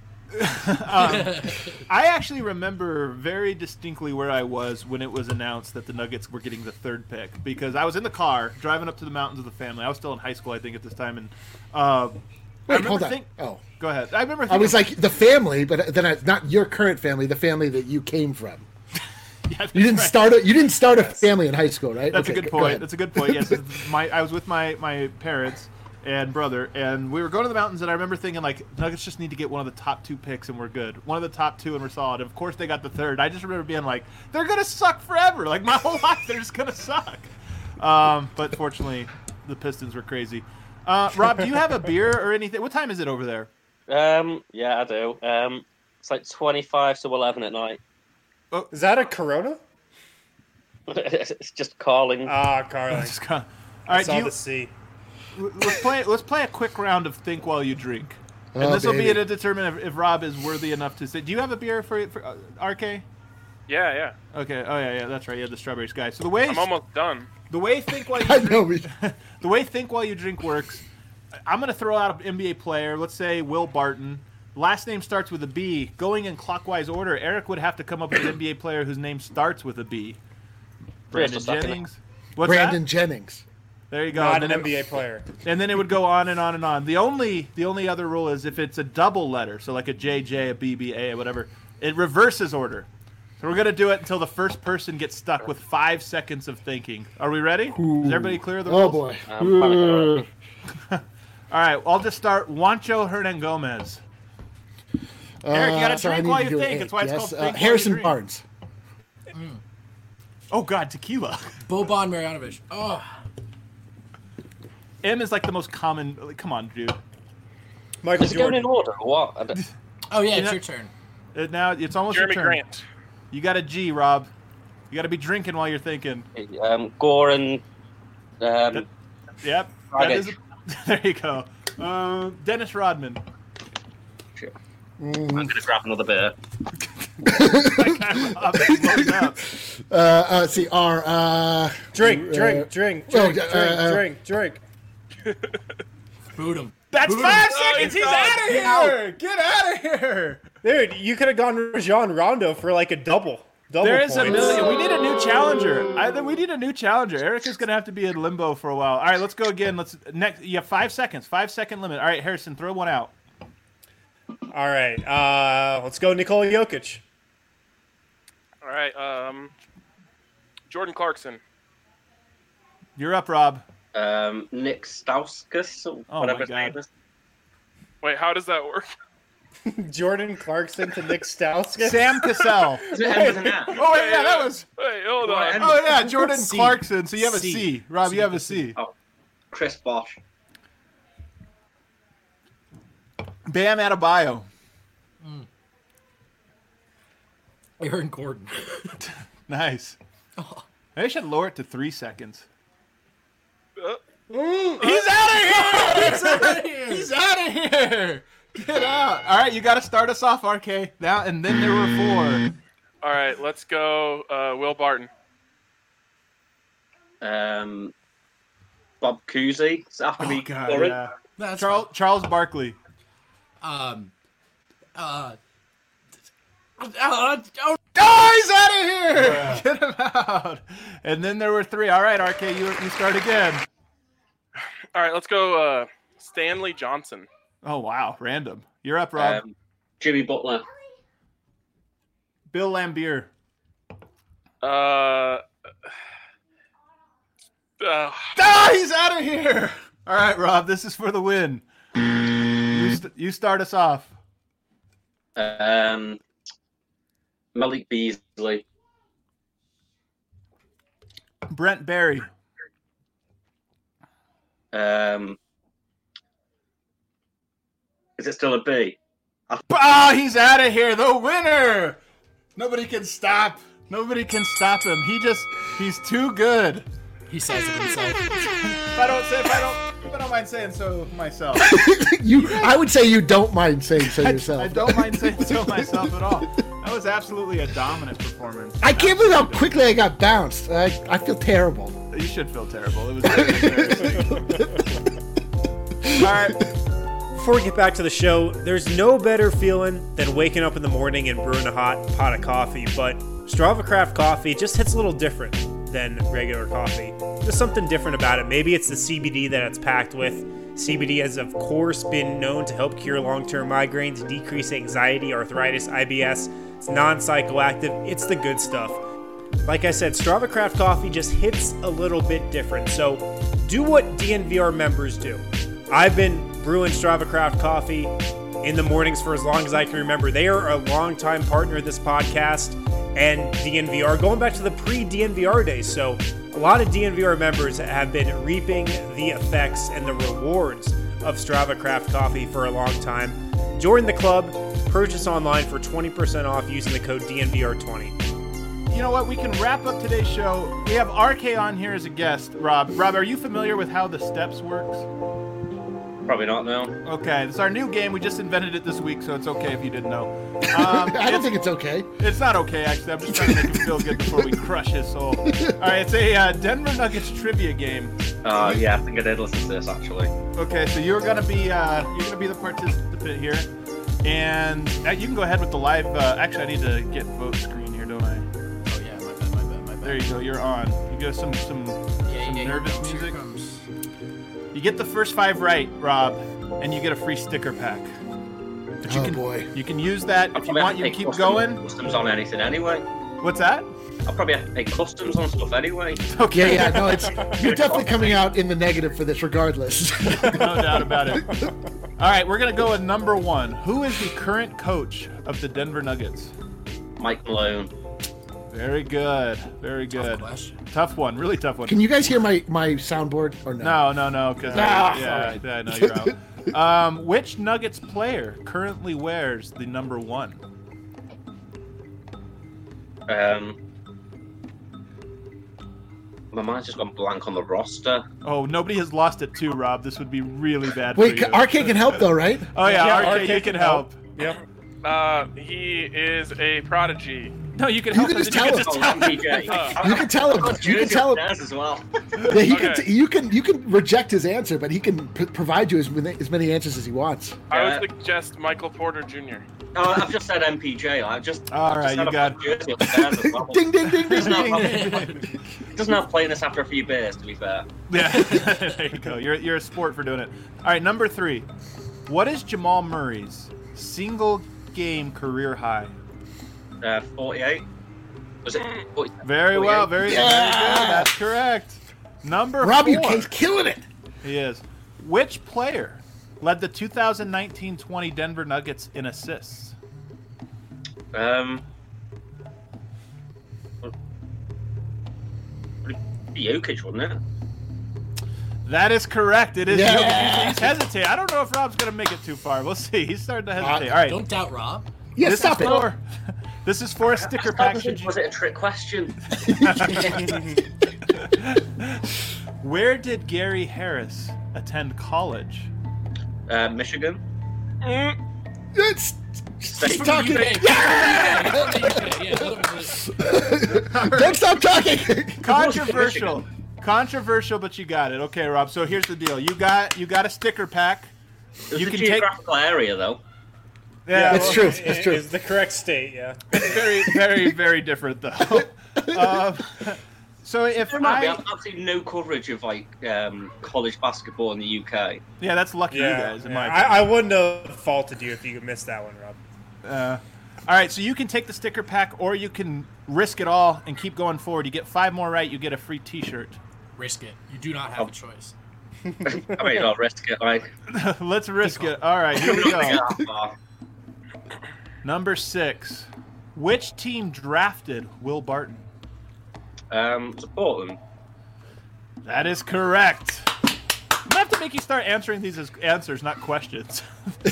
I actually remember very distinctly where I was when it was announced that the Nuggets were getting the third pick, because I was in the car driving up to the mountains with the family. I was still in high school, I think, at this time, and
wait, hold on.
Go ahead. I
was like the family, but then not your current family, the family that you came from.
Yeah,
you didn't start a family in high school, right?
That's a good point. That's a good point. Yes, I was with my parents and brother, and we were going to the mountains, and I remember thinking, like, Nuggets just need to get one of the top two picks and we're good. One of the top two and we're solid. And of course they got the third. I just remember being like, they're going to suck forever. Like, my whole life they're just going to suck. But fortunately, the Pistons were crazy. Rob, do you have a beer or anything? What time is it over there?
Yeah, I do. It's like 25 to 11 at night.
Oh, is that a Corona?
It's just Carling.
Carling.
All right,
the sea.
Let's play a quick round of Think While You Drink, and this will be to determine if Rob is worthy enough to say. Do you have a beer for RK?
Yeah.
Okay. Oh yeah, that's right. You had the strawberries guy. So I'm
almost done.
The way Think While You Drink, the way Think While You Drink works, I'm gonna throw out an NBA player. Let's say Will Barton. Last name starts with a B. Going in clockwise order, Eric would have to come up with an NBA player whose name starts with a B. Brandon Jennings. What's
Brandon
that?
Jennings.
There you go.
Not an NBA player.
And then it would go on and on and on. The only other rule is if it's a double letter, so like a JJ, a BB, A, whatever, it reverses order. So we're going to do it until the first person gets stuck with 5 seconds of thinking. Are we ready? Is everybody clear of the rules?
Oh, boy.
All right, I'll just start. Juancho Hernangomez. Eric, you got to drink while you think. That's why it's called Think
Harrison
While You
Barnes.
Oh, God, tequila.
Boban Marjanovic. Oh.
M is like the most common. Like, come on, dude.
Michael
Is it going in order or what?
Oh, yeah, it's your turn.
Now it's almost
Jeremy
your turn.
Grant.
You got a G, Rob. You got to be drinking while you're thinking.
Gore and...
Yep. That is, there you go. Dennis Rodman.
Sure. I'm going to grab another beer.
See, R.
Drink.
Boot him.
That's
Boot
5
him.
seconds. He's out of here. Get out of here.
Dude, you could have gone Rajon Rondo for like a double.
There is
points.
a million. We need a new challenger. We need a new challenger. Eric is going to have to be in limbo for a while. All right, let's go again. You have 5 seconds. 5 second limit. All right, Harrison, throw one out.
All right, let's go Nikola Jokic.
All right, Jordan Clarkson.
You're up, Rob.
Nick Stauskas, or
Oh
whatever
my
his name
God.
is.
Wait, how does that work?
Jordan Clarkson to Nick Stauskas.
Sam Cassell.
Does it end with an F?
Oh, wait, yeah, that was...
Wait, hold on.
and-
Oh, yeah, Jordan
C.
Clarkson. So you have a
C.
C. Rob, you have a C.
Oh, Chris Bosh.
Bam Adebayo.
Aaron Gordon.
Nice. Maybe I should lower it to 3 seconds. He's out of here! He's out of here! Get out! All right, you got to start us off, RK. Now and then there were 4.
All right, let's go. Will Barton.
Bob Cousy. Does it have to be current?
Yeah.
That's
Charles Barkley.
oh,
Oh, he's out of here! Yeah. Get him out! And then there were 3. All right, RK, you start again.
All right, let's go. Stanley Johnson.
Oh wow, random. You're up, Rob.
Jimmy Butler.
Bill Laimbeer. He's out of here! All right, Rob, this is for the win. You start us off.
Malik Beasley.
Brent Barry.
Is it still a B?
He's out of here. The winner. Nobody can stop. Nobody can stop him. He's too good.
he says it himself.
If I don't mind saying so myself.
I would say you don't mind saying so yourself.
I don't mind saying so myself at all. That was absolutely a dominant performance.
I can't believe how quickly I got bounced. I feel terrible.
You should feel terrible. It was very embarrassing. All right.
Before we get back to the show, there's no better feeling than waking up in the morning and brewing a hot pot of coffee, but Strava Craft coffee just hits a little different than regular coffee. There's something different about it. Maybe it's the CBD that it's packed with. CBD has, of course, been known to help cure long-term migraines, decrease anxiety, arthritis, IBS. It's non-psychoactive. It's the good stuff. Like I said, Strava Craft coffee just hits a little bit different. So do what DNVR members do. I've been brewing Strava Craft coffee in the mornings for as long as I can remember. They are a longtime partner of this podcast and DNVR, going back to the pre-DNVR days. So a lot of DNVR members have been reaping the effects and the rewards of Strava Craft coffee for a long time. Join the club, purchase online for 20% off using the code DNVR20.
You know what? We can wrap up today's show. We have RK on here as a guest. Rob, are you familiar with how the steps works?
Probably not, no.
Okay, it's our new game. We just invented it this week, so it's okay if you didn't know.
I don't think it's okay.
It's not okay, actually. I'm just trying to make him feel good before we crush his soul. All right, it's a Denver Nuggets trivia game.
Yeah, I think I did listen to this, actually.
Okay, so you're gonna be the participant here, and you can go ahead with the live. Actually, I need to get vote screen here, don't I?
Oh yeah, my bad.
There you go. You're on. You got some nervous music. You get the first 5 right, Rob, and you get a free sticker pack. But
boy.
You can use that if you want. You can keep going.
Customs on anything anyway.
What's that?
I'll probably have to pay customs on stuff anyway.
Okay.
Yeah, no, you're definitely coming out in the negative for this regardless.
No doubt about it. All right, we're going to go with number 1. Who is the current coach of the Denver Nuggets?
Mike Malone.
Very good. Very good. Tough one. Really tough one.
Can you guys hear my soundboard or no?
No. Because I know you're out. Which Nuggets player currently wears the number 1?
My mind's just gone blank on the roster.
Oh, nobody has lost it too, Rob. This would be really bad for
Wait,
you.
RK can help though, right?
Oh yeah, RK, you
RK
can help.
Yep.
He is a prodigy.
No, you can help
can
him.
just
You can
tell
just
him.
tell him.
MPJ.
You can tell him. You can tell him.
As well.
Yeah,
Okay.
you can reject his answer, but he can provide you as many answers as he wants.
I would suggest Michael Porter Jr.
Oh, I've just said MPJ.
All right, you got
jersey upstairs as well.
Ding, ding, ding, ding,
Doesn't
ding.
have, doesn't have playing this after a few beers, to be fair.
Yeah, there you go. You're a sport for doing it. All right, number 3. What is Jamal Murray's single game career high?
48. Was it 40?
Very
48?
well, very good. That's correct. Number 4.
Rob, you killing it.
He is. Which player led the 2019-20 Denver Nuggets in assists?
Jokic, wasn't it?
That is correct. It is.
Yeah.
He's hesitating. I don't know if Rob's going to make it too far. We'll see. He's starting to hesitate. All right.
Don't doubt Rob.
Yeah,
This
stop
is
it.
for, this is for a sticker pack.
Was it a trick question?
Where did Gary Harris attend college?
Michigan.
It's
State.
talking.
Yeah.
Don't stop talking.
Controversial. Controversial, but you got it. Okay, Rob. So here's the deal. You got a sticker pack.
It was
You
a
can take.
geographical area, though.
Yeah,
It's true. It's
It
true.
is the correct state, yeah.
very, very, very different though. So if
There might be absolutely no coverage of like college basketball in the UK.
yeah, that's lucky you
Yeah,
guys. In
yeah.
my opinion.
I wouldn't have faulted you if you missed that one, Rob.
All right, so you can take the sticker pack, or you can risk it all and keep going forward. You get 5 more right, you get a free T-shirt.
Risk it. You do not have a choice.
I mean, I'll risk it. Like,
Let's risk it. All right, here we
I'm
go.
not gonna get that far.
Number 6. Which team drafted Will Barton?
It's Portland.
That is correct. I'm gonna have to make you start answering these as answers, not questions.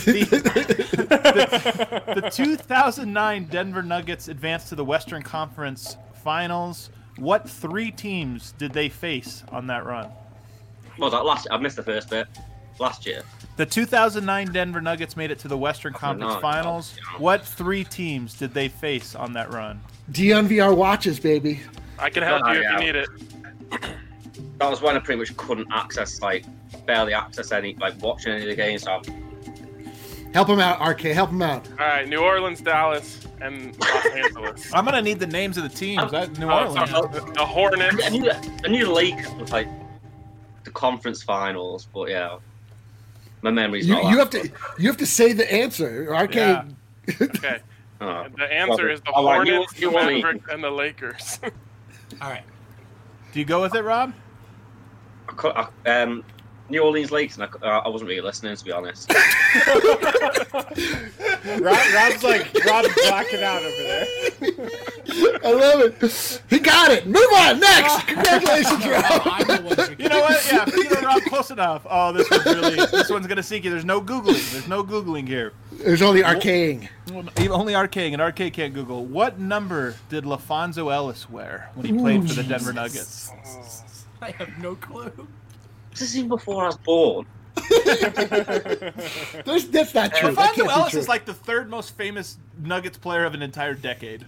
the 2009 Denver Nuggets advanced to the Western Conference Finals. What 3 teams did they face on that run?
What was that last? I missed the first bit. Last year.
The 2009 Denver Nuggets made it to the Western Conference
no,
Finals.
yeah.
What 3 teams did they face on that run?
DNVR watches, baby.
I can help you if you need it.
That was when I pretty much couldn't access, like, barely access any, like, watching any of the games. So
Help him out, RK. Help him out.
All right, New Orleans, Dallas, and Los Angeles.
I'm gonna need the names of the teams. New
Oh,
Orleans.
sorry, the Hornets.
I knew the Lakers was like the conference finals, but yeah, my memory's not.
You have to say the answer. RK.
Yeah.
Okay.
Oh.
The answer is the
Oh, I knew-
Hornets, the
New Orleans.
Mavericks, and the Lakers.
All right.
Do you go with it, Rob?
New Orleans Lakers, and I wasn't really listening, to be honest.
Rob's blacking out over there.
I love it. He got it. Move on. Next. Congratulations, Rob.
I'm the one who
You know what? Yeah, Rob, close enough. Oh, this one's gonna sink you. There's no Googling. There's no Googling here.
There's only RKing.
Only RKing, and RK can't Google. What number did LaFonso Ellis wear when he played for the Denver Nuggets?
I have no clue.
This is even before I was born.
That's not true. That
LaFonso
can't be
Ellis
true.
is like the 3rd most famous Nuggets player of an entire decade.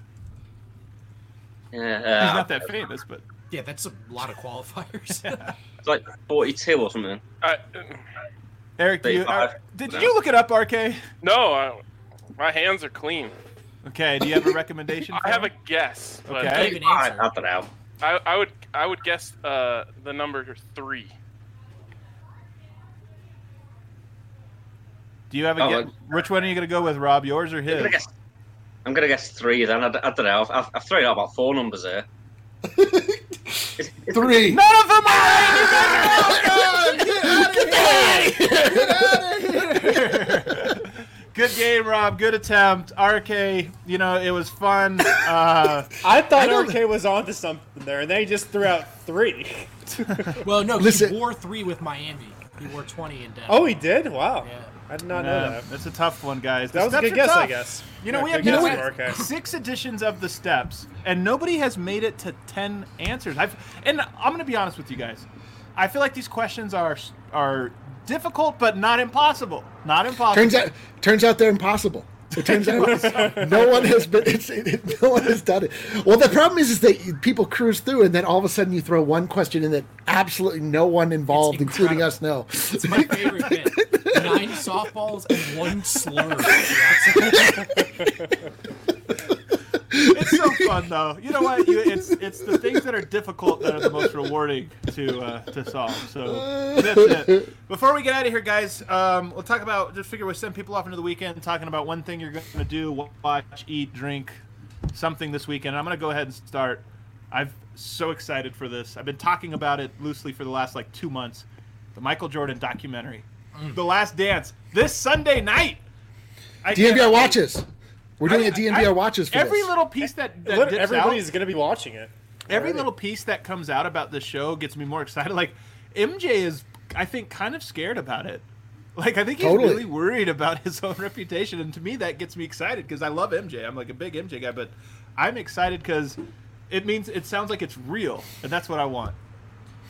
Yeah,
He's not that famous, but
Yeah, that's a lot of qualifiers.
It's like 42 or something.
Eric, do you,
35.
did you look it up, RK?
No, my hands are clean.
Okay, do you have a recommendation?
I have a guess, but
Okay.
Even
I
answer.
don't know.
I would guess the number 3.
Do you have a guess? Which one are you going to go with, Rob? Yours or his?
I'm gonna guess 3 then. I don't know. I've thrown out about 4 numbers here.
3.
None of them are Good game, Rob. Good attempt. RK, it was fun.
I thought RK was onto something there, and then he just threw out 3.
Well, no,
Listen.
he wore 3 with Miami. He wore 20 in Denver.
Oh, he did? Wow.
Yeah.
I did not know
Yeah,
that.
that's a tough one, guys. The
That was a
steps
good
are
guess, I
tough.
guess.
We have
good
now
guess
had
from RK.
6 editions of the steps, and nobody has made it to 10 answers. And I'm going to be honest with you guys. I feel like these questions are difficult, but not impossible. Not impossible.
Turns out they're impossible. It turns out no one has done it. Well, the problem is that people cruise through, and then all of a sudden you throw one question in that absolutely no one involved,
It's
including us, know.
It's my favorite bit. 9 softballs and 1 slur.
It's so fun, though. You know what? It's the things that are difficult that are the most rewarding to solve. So that's it. Before we get out of here, guys, we'll talk about we'll send people off into the weekend talking about one thing you're going to do, watch, eat, drink, something this weekend. I'm going to go ahead and start. I'm so excited for this. I've been talking about it loosely for the last 2 months. The Michael Jordan documentary, The Last Dance, this Sunday night.
DNVR watches. We're doing a DNVR watches for
every
this.
little piece that dips out.
Everybody's going to be watching it.
Every little piece that comes out about the show gets me more excited. Like, MJ is, I think, kind of scared about it. Like, I think he's
Totally.
really worried about his own reputation. And to me, that gets me excited because I love MJ. I'm like a big MJ guy. But I'm excited because it sounds like it's real. And that's what I want.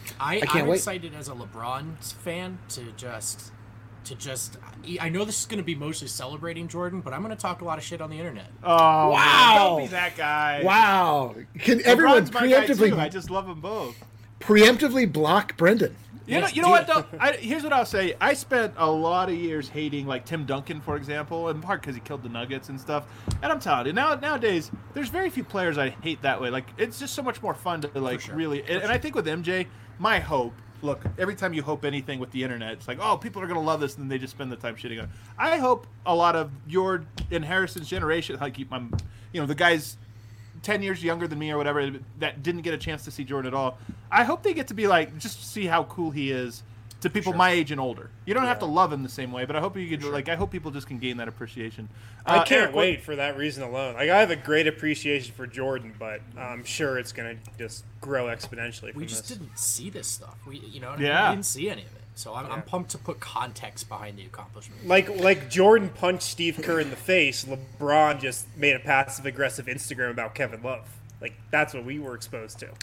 I'm
can't wait.
excited as a LeBron fan to just. I know this is going to be mostly celebrating Jordan, but I'm going to talk a lot of shit on the internet.
Oh,
Wow.
man, don't be that guy.
Wow. Can everyone
LeBron's my guy, too.
preemptively
I just love them both.
block Brendan?
You know what though? Here's what I'll say. I spent a lot of years hating like Tim Duncan, for example, in part because he killed the Nuggets and stuff. And I'm telling you, nowadays there's very few players I hate that way. Like it's just so much more fun to like really. And I think with MJ, my hope. Look, every time you hope anything with the internet, it's like, oh, people are gonna love this, and then they just spend the time shitting on it. I hope a lot of your and Harrison's generation, like the guys 10 years younger than me or whatever that didn't get a chance to see Jordan at all. I hope they get to be like just see how cool he is to people my age and older. You don't have to love him the same way, but I hope you can I hope people just can gain that appreciation.
I can't wait for that reason alone. Like I have a great appreciation for Jordan, but I'm sure it's gonna just grow exponentially.
We just didn't see this stuff. We we
Yeah.
didn't see any of it. So I'm pumped to put context behind the accomplishment.
Like Jordan punched Steve Kerr in the face, LeBron just made a passive aggressive Instagram about Kevin Love. Like that's what we were exposed to.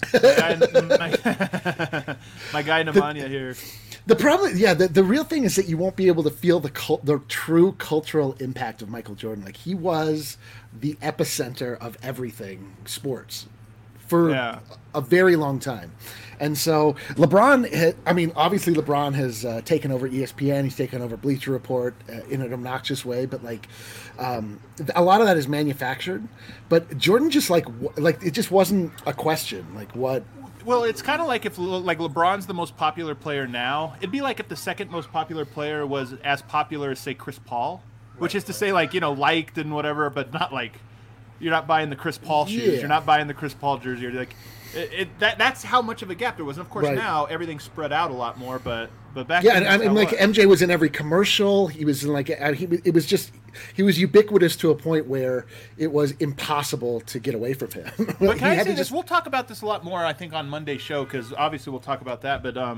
My guy Nemanja here.
The problem, the real thing is that you won't be able to feel the true cultural impact of Michael Jordan. Like he was the epicenter of everything sports for a very long time. And so LeBron, obviously LeBron has taken over ESPN. He's taken over Bleacher Report in an obnoxious way, but a lot of that is manufactured. But Jordan just like it just wasn't a question. Like what?
Well, it's kind of like if LeBron's the most popular player now, it'd be like if the second most popular player was as popular as say Chris Paul, which is to say liked and whatever, but not like you're not buying the Chris Paul shoes, you're not buying the Chris Paul jersey, you're like that's how much of a gap there was. And of course now everything's spread out a lot more, but back then
MJ was in every commercial. He was in he was ubiquitous to a point where it was impossible to get away from him.
But can I say this? We'll talk about this a lot more, I think, on Monday's show because obviously we'll talk about that. But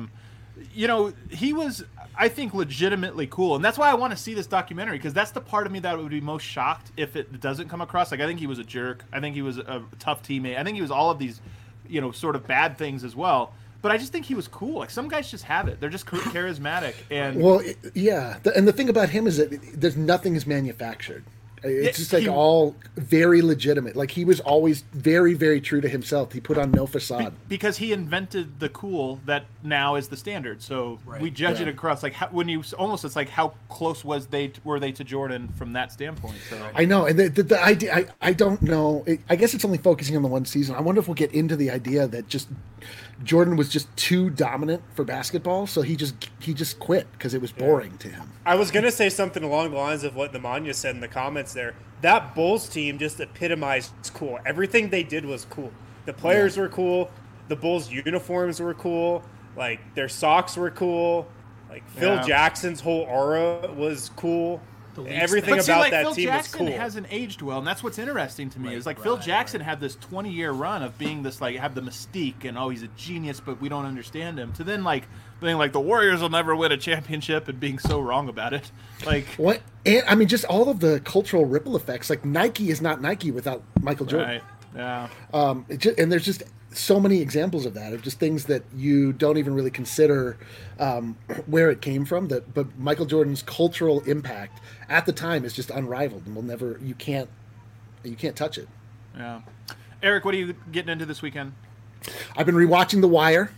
he was, I think, legitimately cool, and that's why I want to see this documentary because that's the part of me that would be most shocked if it doesn't come across. Like I think he was a jerk. I think he was a tough teammate. I think he was all of these, sort of bad things as well. But I just think he was cool. Like some guys just have it; they're just charismatic. And
and the thing about him is that nothing is manufactured. It's just all very legitimate. Like he was always very, very true to himself. He put on no facade
because he invented the cool that now is the standard. So we judge it across it's like how close were they to Jordan from that standpoint. So
I know, and the idea I don't know. I guess it's only focusing on the one season. I wonder if we'll get into the idea that just Jordan was just too dominant for basketball, so he just quit because it was boring to him.
I was gonna say something along the lines of what Nemanja said in the comments there. That Bulls team just epitomized cool. Everything they did was cool. The players were cool. The Bulls uniforms were cool. Like their socks were cool. Like Phil Jackson's whole aura was cool. Everything about that
Phil
team
Jackson
was cool.
hasn't aged well, and that's what's interesting to me. Is like Phil Jackson had this 20-year run of being this have the mystique and he's a genius, but we don't understand him. To then being like the Warriors will never win a championship and being so wrong about it. Like
what? And just all of the cultural ripple effects. Like Nike is not Nike without Michael Jordan.
Right. Yeah.
And there's just so many examples of that, of just things that you don't even really consider where it came from. But Michael Jordan's cultural impact at the time is just unrivaled, and you can't touch it.
Yeah. Eric, what are you getting into this weekend?
I've been rewatching The Wire.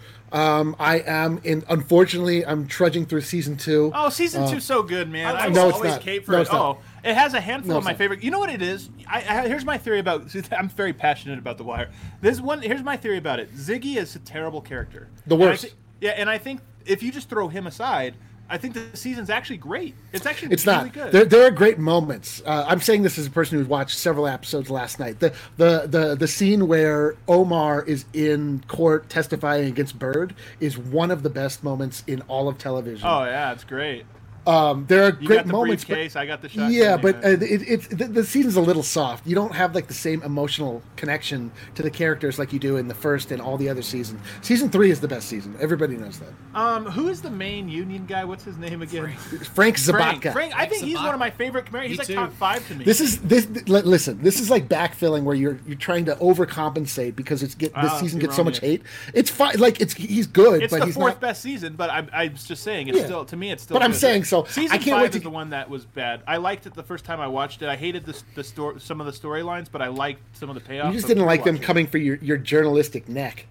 Unfortunately, I'm trudging through season 2.
Oh, season 2's so good, man. I
no,
was
it's
always
not.
cape for
No,
it.
it's not.
It has a handful of my
not.
favorite. You know what it is? Here's my theory about. I'm very passionate about The Wire. Here's my theory about it. Ziggy is a terrible character.
The worst.
And I think if you just throw him aside, I think the season's actually great. It's actually
it's
really
not.
good.
There are great moments. I'm saying this as a person who's watched several episodes last night. The scene where Omar is in court testifying against Bird is one of the best moments in all of television.
Oh yeah, it's great.
There are
You
great
got the
moments.
briefcase. I got the shotgun.
Yeah, but the season's a little soft. You don't have like the same emotional connection to the characters like you do in the first and all the other seasons. Season 3 is the best season. Everybody knows that.
Who is the main Union guy? What's his name again?
Frank Zabatka.
Frank. I think he's one of my favorite commanders. He's like top 5 to me.
Listen. This is like backfilling where you're trying to overcompensate because this season gets so much hate. It's fine. Like he's good.
It's
but
the
he's
4th
not
best season. But I'm just saying it's still, to me, it's still.
But I'm
good.
saying so.
Season
I can't
5
wait to
is the one that was bad. I liked it the first time I watched it. I hated some of the storylines, but I liked some of the payoffs.
You just didn't like them coming for your journalistic neck.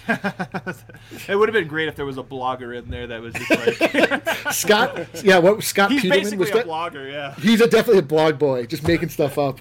It would have been great if there was a blogger in there that was just like
Scott. Yeah, what Scott
he's
Peterman
basically
was
a
that?
blogger. Yeah.
He's definitely a blog boy, just making stuff up.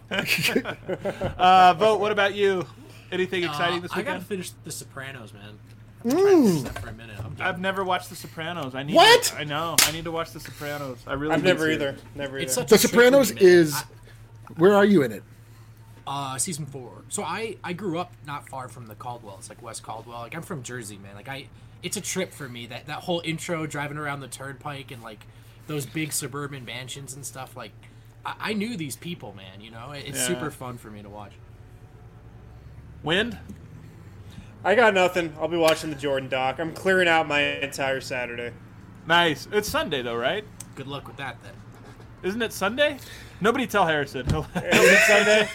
Vote. What about you? Anything exciting this
I
weekend?
gotta finish The Sopranos, man. I've been trying to finish that for a minute.
I've never watched The Sopranos. I need.
What?
I know. I need to watch The Sopranos. I really.
I've
need
never
to.
either. Never either.
It's such
The
a trip
Sopranos
for me, man.
is. Where are you in it?
Season 4. So I grew up not far from the Caldwell. It's like West Caldwell. Like I'm from Jersey, man. Like it's a trip for me. That whole intro driving around the turnpike and like those big suburban mansions and stuff. Like I knew these people, man. You know, it's super fun for me to watch.
Wind.
I got nothing. I'll be watching the Jordan doc. I'm clearing out my entire Saturday.
Nice. It's Sunday though, right?
Good luck with that, then.
Isn't it Sunday? Nobody tell Harrison.
Is it Sunday?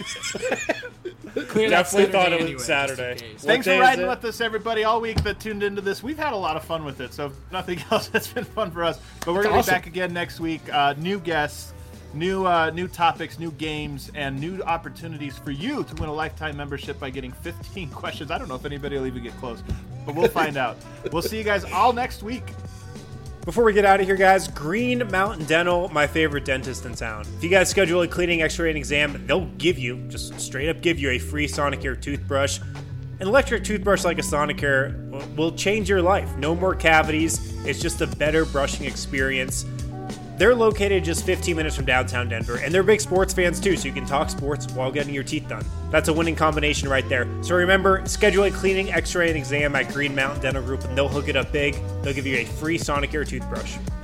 Clear that
Definitely thought
Saturday
it was
anyway,
Saturday.
just in case.
What
Thanks
day
for
is
riding
it?
with us, everybody, all week that tuned into this. We've had a lot of fun with it, so if nothing else, it's been fun for us. But we're going to
awesome.
be back again next week. New guests, new topics, new games, and new opportunities for you to win a lifetime membership by getting 15 questions. I don't know if anybody will even get close, but we'll find out. We'll see you guys all next week.
Before we get out of here, guys, Green Mountain Dental, my favorite dentist in town. If you guys schedule a cleaning, x-ray, and exam, they'll just straight up give you a free Sonicare toothbrush. An electric toothbrush like a Sonicare will change your life. No more cavities. It's just a better brushing experience. They're located just 15 minutes from downtown Denver, and they're big sports fans too, so you can talk sports while getting your teeth done. That's a winning combination right there. So remember, schedule a cleaning, x-ray, and exam at Green Mountain Dental Group, and they'll hook it up big. They'll give you a free Sonicare toothbrush.